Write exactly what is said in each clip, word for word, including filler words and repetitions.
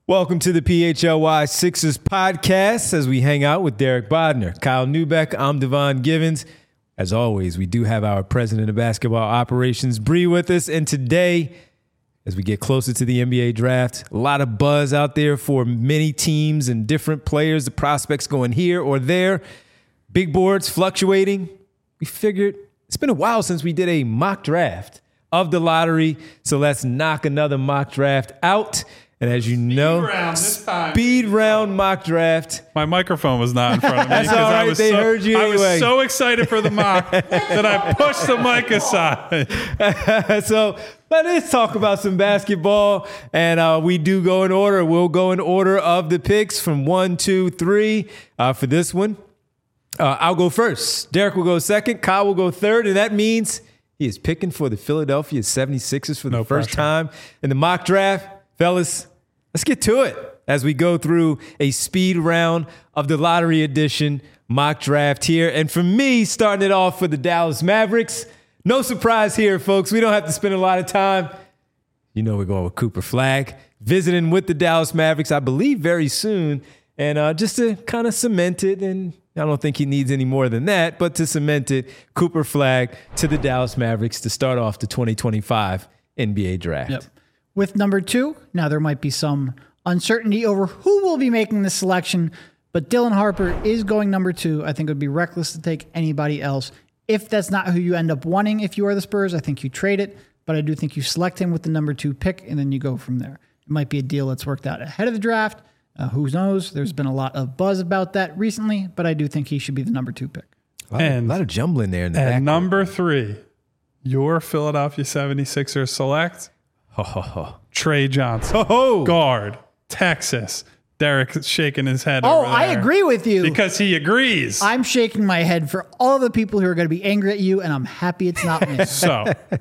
Welcome to the P H L Y Sixers podcast as we hang out with Derek Bodner, Kyle Neubeck. I'm Devon Givens. As always, we do have our president of basketball operations, Bree, with us. And today, as we get closer to the N B A draft, a lot of buzz out there for many teams and different players, the prospects going here or there, big boards fluctuating. We figured it's been a while since we did a mock draft of the lottery, so let's knock another mock draft out. And as you speed know, round this time. speed round mock draft. My microphone was not in front of me. That's all right. I was They so, heard you I anyway. was so excited for the mock that I pushed the mic aside. So let's talk about some basketball. And uh, we do go in order. We'll go in order of the picks from one, two, three uh, for this one. Uh, I'll go first. Derek will go second. Kyle will go third. And that means he is picking for the Philadelphia seventy-sixers for the No first pressure. time in the mock draft. Fellas, let's get to it as we go through a speed round of the lottery edition mock draft here. And for me, starting it off for the Dallas Mavericks, no surprise here, folks. We don't have to spend a lot of time. You know we're going with Cooper Flagg, visiting with the Dallas Mavericks, I believe, very soon. And uh, just to kind of cement it, and I don't think he needs any more than that, but to cement it, Cooper Flagg to the Dallas Mavericks to start off the twenty twenty-five N B A draft. Yep. With number two, now there might be some uncertainty over who will be making the selection, but Dylan Harper is going number two. I think it would be reckless to take anybody else. If that's not who you end up wanting, if you are the Spurs, I think you trade it, but I do think you select him with the number two pick, and then you go from there. It might be a deal that's worked out ahead of the draft. Uh, who knows? There's been a lot of buzz about that recently, but I do think he should be the number two pick. A lot, And- of, a lot of jumbling there in the And back. number three, your Philadelphia seventy-sixers select Ho, ho, ho. Trey Johnson, Ho, ho. guard, Texas. Derek's shaking his head Oh, over I there agree with you. because he agrees. I'm shaking my head for all the people who are going to be angry at you, and I'm happy it's not me. So,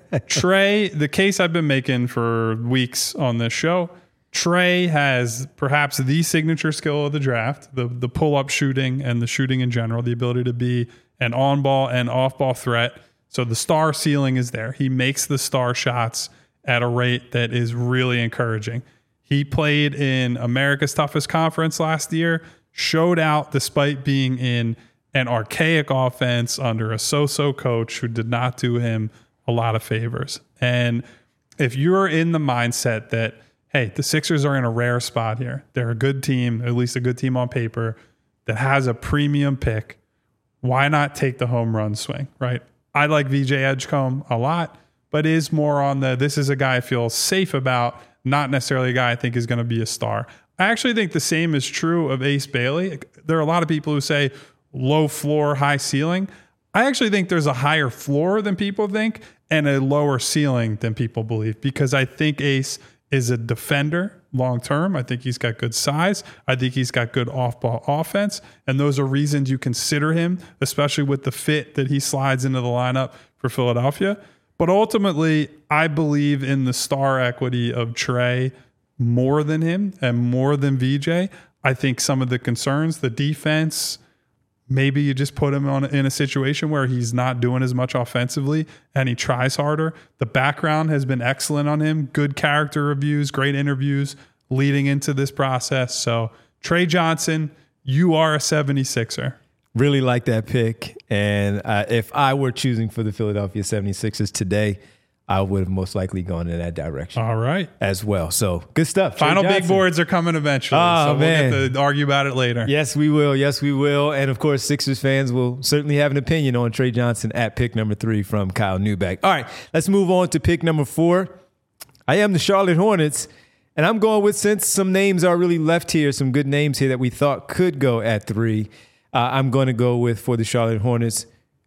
Trey, the case I've been making for weeks on this show, Trey has perhaps the signature skill of the draft, the the pull-up shooting and the shooting in general, the ability to be an on-ball and off-ball threat. So the star ceiling is there. He makes the star shots at a rate that is really encouraging. He played in America's Toughest Conference last year, showed out despite being in an archaic offense under a so-so coach who did not do him a lot of favors. And if you're in the mindset that, hey, the Sixers are in a rare spot here, they're a good team, at least a good team on paper, that has a premium pick, why not take the home run swing, right? I like V J Edgecombe a lot, but is more on the, this is a guy I feel safe about, not necessarily a guy I think is going to be a star. I actually think the same is true of Ace Bailey. There are a lot of people who say low floor, high ceiling. I actually think there's a higher floor than people think and a lower ceiling than people believe, because I think Ace is a defender long term. I think he's got good size. I think he's got good off-ball offense. And those are reasons you consider him, especially with the fit that he slides into the lineup for Philadelphia. But ultimately, I believe in the star equity of Trey more than him and more than V J. I think some of the concerns, the defense, maybe you just put him on in a situation where he's not doing as much offensively and he tries harder. The background has been excellent on him. Good character reviews, great interviews leading into this process. So Trey Johnson, you are a seventy-sixer. Really like that pick. And uh, if I were choosing for the Philadelphia seventy-sixers today, I would have most likely gone in that direction All right. as well. So good stuff. Trey Final big Johnson. boards are coming eventually. Oh, so we'll man. get to argue about it later. Yes, we will. Yes, we will. And of course, Sixers fans will certainly have an opinion on Trey Johnson at pick number three from Kyle Neubeck. All right, let's move on to pick number four. I am the Charlotte Hornets, and I'm going with, since some names are really left here, some good names here that we thought could go at three, uh, I'm going to go with, for the Charlotte Hornets,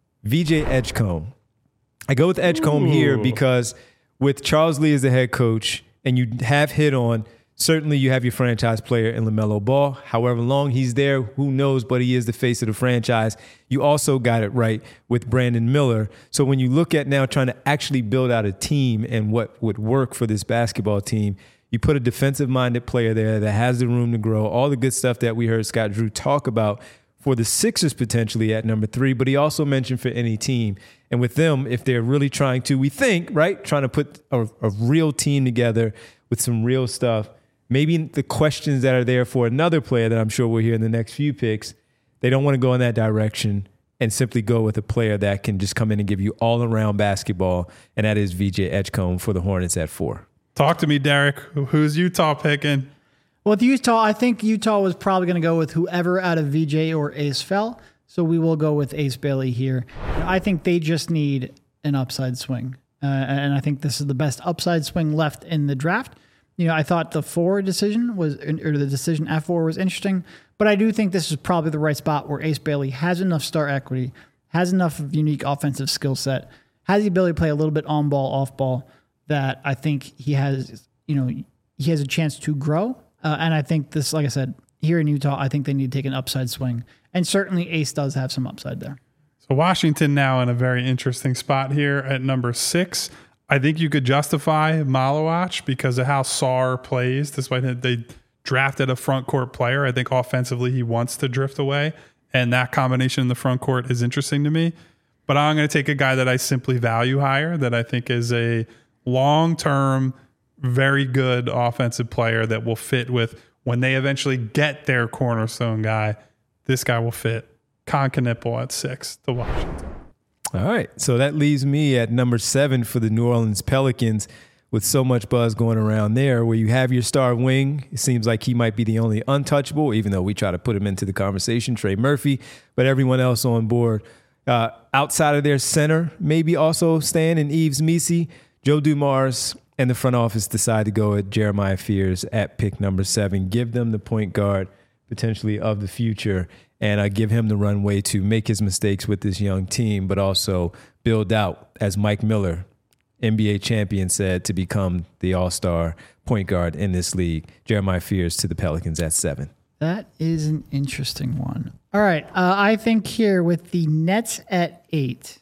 V J Edgecombe. I go with Edgecombe Ooh. here because with Charles Lee as the head coach, and you have hit on, certainly you have your franchise player in LaMelo Ball. However long he's there, who knows, but he is the face of the franchise. You also got it right with Brandon Miller. So when you look at now trying to actually build out a team and what would work for this basketball team, you put a defensive-minded player there that has the room to grow, all the good stuff that we heard Scott Drew talk about for the Sixers potentially at number three, but he also mentioned for any team. And with them, if they're really trying to, we think, right, trying to put a, a real team together with some real stuff, maybe the questions that are there for another player that I'm sure we'll hear in the next few picks, they don't want to go in that direction and simply go with a player that can just come in and give you all-around basketball, and that is V J Edgecombe for the Hornets at four. Talk to me, Derek. Who's Utah picking? Well, with Utah, I think Utah was probably going to go with whoever out of V J or Ace fell. So we will go with Ace Bailey here. I think they just need an upside swing. Uh, and I think this is the best upside swing left in the draft. You know, I thought the four decision was, or the decision at four was interesting, but I do think this is probably the right spot where Ace Bailey has enough star equity, has enough of unique offensive skill set, has the ability to play a little bit on ball, off ball, that I think he has, you know, he has a chance to grow. Uh, and I think this, like I said, here in Utah, I think they need to take an upside swing. And certainly Ace does have some upside there. So Washington now in a very interesting spot here at number six. I think you could justify Malawach because of how Sarr plays. Despite they drafted a front court player, I think offensively he wants to drift away. And that combination in the front court is interesting to me. But I'm going to take a guy that I simply value higher, that I think is a long-term, very good offensive player that will fit with when they eventually get their cornerstone guy. This guy will fit. Kon Knueppel at six to Washington. All right. So that leaves me at number seven for the New Orleans Pelicans with so much buzz going around there where you have your star wing. It seems like he might be the only untouchable, even though we try to put him into the conversation, Trey Murphy, but everyone else on board. Uh, outside of their center, maybe also staying in Yves Missi, Joe Dumars, and the front office decide to go at Jeremiah Fears at pick number seven. Give them the point guard potentially of the future, and uh, give him the runway to make his mistakes with this young team, but also build out, as Mike Miller, N B A champion, said, to become the all-star point guard in this league. Jeremiah Fears to the Pelicans at seven. That is an interesting one. All right. Uh, I think here with the Nets at eight,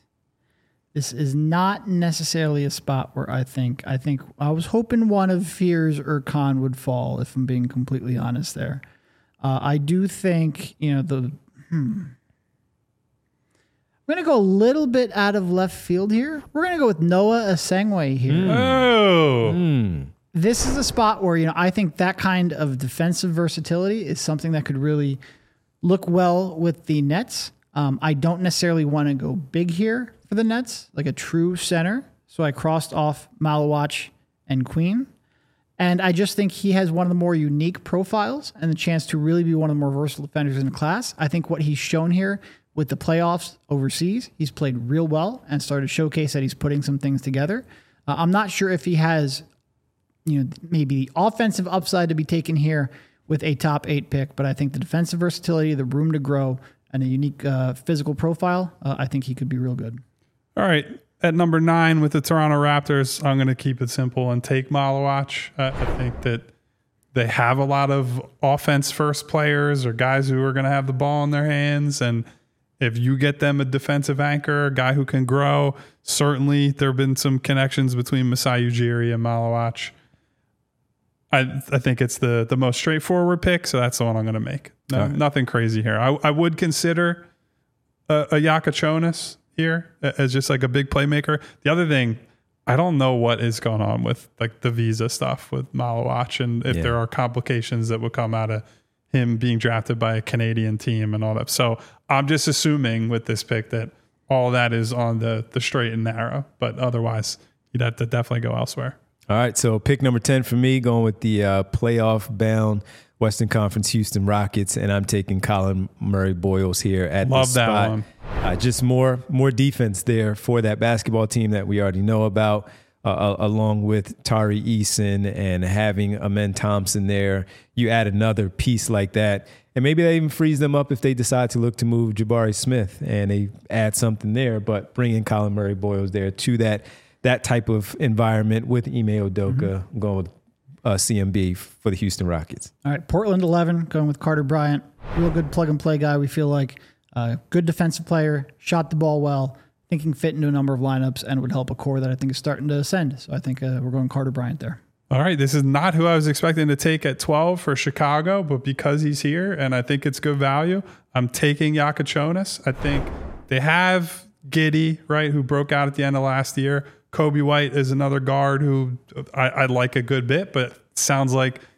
this is not necessarily a spot where I think, I think I was hoping one of Fears or Khan would fall, if I'm being completely honest there. Uh, I do think, you know, the, hmm. I'm going to go a little bit out of left field here. We're going to go with Noah Asengwe here. Mm. Oh. Mm. This is a spot where, you know, I think that kind of defensive versatility is something that could really look well with the Nets. Um, I don't necessarily want to go big here for the Nets, like a true center. So I crossed off Malawach and Queen. And I just think he has one of the more unique profiles and the chance to really be one of the more versatile defenders in the class. I think what he's shown here with the playoffs overseas, he's played real well and started to showcase that he's putting some things together. Uh, I'm not sure if he has, you know, maybe the offensive upside to be taken here with a top eight pick, but I think the defensive versatility, the room to grow, and a unique uh, physical profile, uh, I think he could be real good. All right. At number nine with the Toronto Raptors, I'm going to keep it simple and take Malawach. Uh, I think that they have a lot of offense-first players or guys who are going to have the ball in their hands. And if you get them a defensive anchor, a guy who can grow, certainly there have been some connections between Masai Ujiri and Malawach. I I think it's the the most straightforward pick, so that's the one I'm going to make. No, right. Nothing crazy here. I, I would consider a, a Yakachonis here as just like a big playmaker. The other thing, I don't know what is going on with like the visa stuff with Malawach and if yeah. there are complications that would come out of him being drafted by a Canadian team and all that. So I'm just assuming with this pick that all that is on the the straight and narrow, but otherwise you'd have to definitely go elsewhere. All right, so pick number ten for me, going with the uh, playoff-bound Western Conference Houston Rockets, and I'm taking Colin Murray-Boyles here at Love the spot. that one. Uh, just more more defense there for that basketball team that we already know about, uh, along with Tari Eason and having Amen Thompson there. You add another piece like that, and maybe that even frees them up if they decide to look to move Jabari Smith, and they add something there, but bringing Colin Murray-Boyles there to that that type of environment with Ime Udoka, mm-hmm. going with uh, C M B for the Houston Rockets. All right, Portland eleven, going with Carter Bryant. Real good plug-and-play guy, we feel like. Uh, good defensive player, shot the ball well, thinking fit into a number of lineups, and would help a core that I think is starting to ascend. So I think uh, we're going Carter Bryant there. All right, this is not who I was expecting to take at twelve for Chicago, but because he's here and I think it's good value, I'm taking Yakachonis. I think they have Giddey, right, who broke out at the end of last year. Kobe White is another guard who I, I like a good bit, but sounds like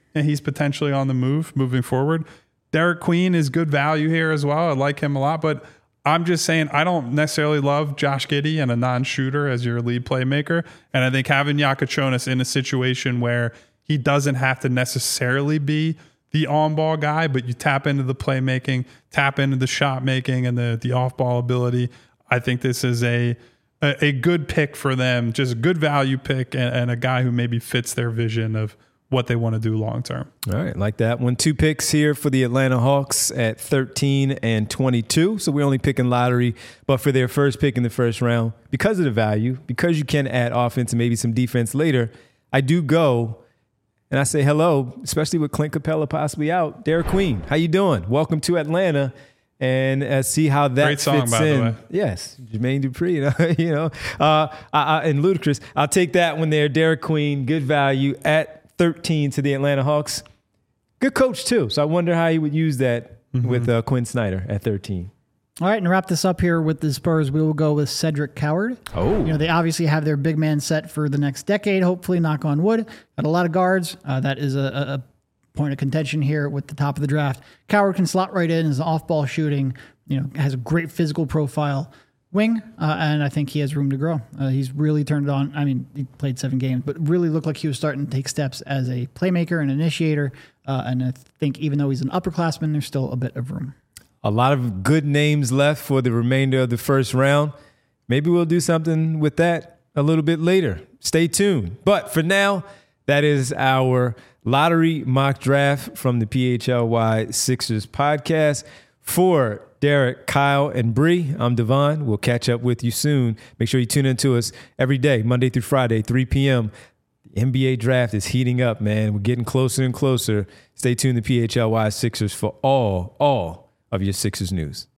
and he's potentially on the move moving forward. Derek Queen is good value here as well. I like him a lot, but I'm just saying I don't necessarily love Josh Giddey and a non-shooter as your lead playmaker. And I think having Yakachonis in a situation where he doesn't have to necessarily be the on-ball guy, but you tap into the playmaking, tap into the shot making and the, the off-ball ability. I think this is a a, a good pick for them, just a good value pick and, and a guy who maybe fits their vision of what they want to do long term. All right, like that one. Two picks here for the Atlanta Hawks at thirteen and twenty-two. So we're only picking lottery, but for their first pick in the first round, because of the value, because you can add offense and maybe some defense later, I do go and I say hello, especially with Clint Capella possibly out. Derek Queen, how you doing? Welcome to Atlanta. And uh, see how that Great song, fits by in. the way. Yes, Jermaine Dupri, you know, you know uh, I, I, and Ludacris. I'll take that one there. Derek Queen, good value at thirteen to the Atlanta Hawks. Good coach too. So I wonder how he would use that mm-hmm. with uh, Quinn Snyder at thirteen. All right, and to wrap this up here with the Spurs, we will go with Cedric Coward. Oh. You know, they obviously have their big man set for the next decade, hopefully, knock on wood. Got a lot of guards. Uh, that is a, a point of contention here with the top of the draft. Coward can slot right in as an off-ball shooting, you know, has a great physical profile wing, uh, and I think he has room to grow. Uh, he's really turned it on. I mean, he played seven games, but really looked like he was starting to take steps as a playmaker and initiator, uh, and I think even though he's an upperclassman, there's still a bit of room. A lot of good names left for the remainder of the first round. Maybe we'll do something with that a little bit later. Stay tuned. But for now, that is our lottery mock draft from the P H L Y Sixers podcast. For Derek, Kyle, and Bree, I'm Devon. We'll catch up with you soon. Make sure you tune in to us every day, Monday through Friday, three p.m. The N B A draft is heating up, man. We're getting closer and closer. Stay tuned to P H L Y Sixers for all, all of your Sixers news.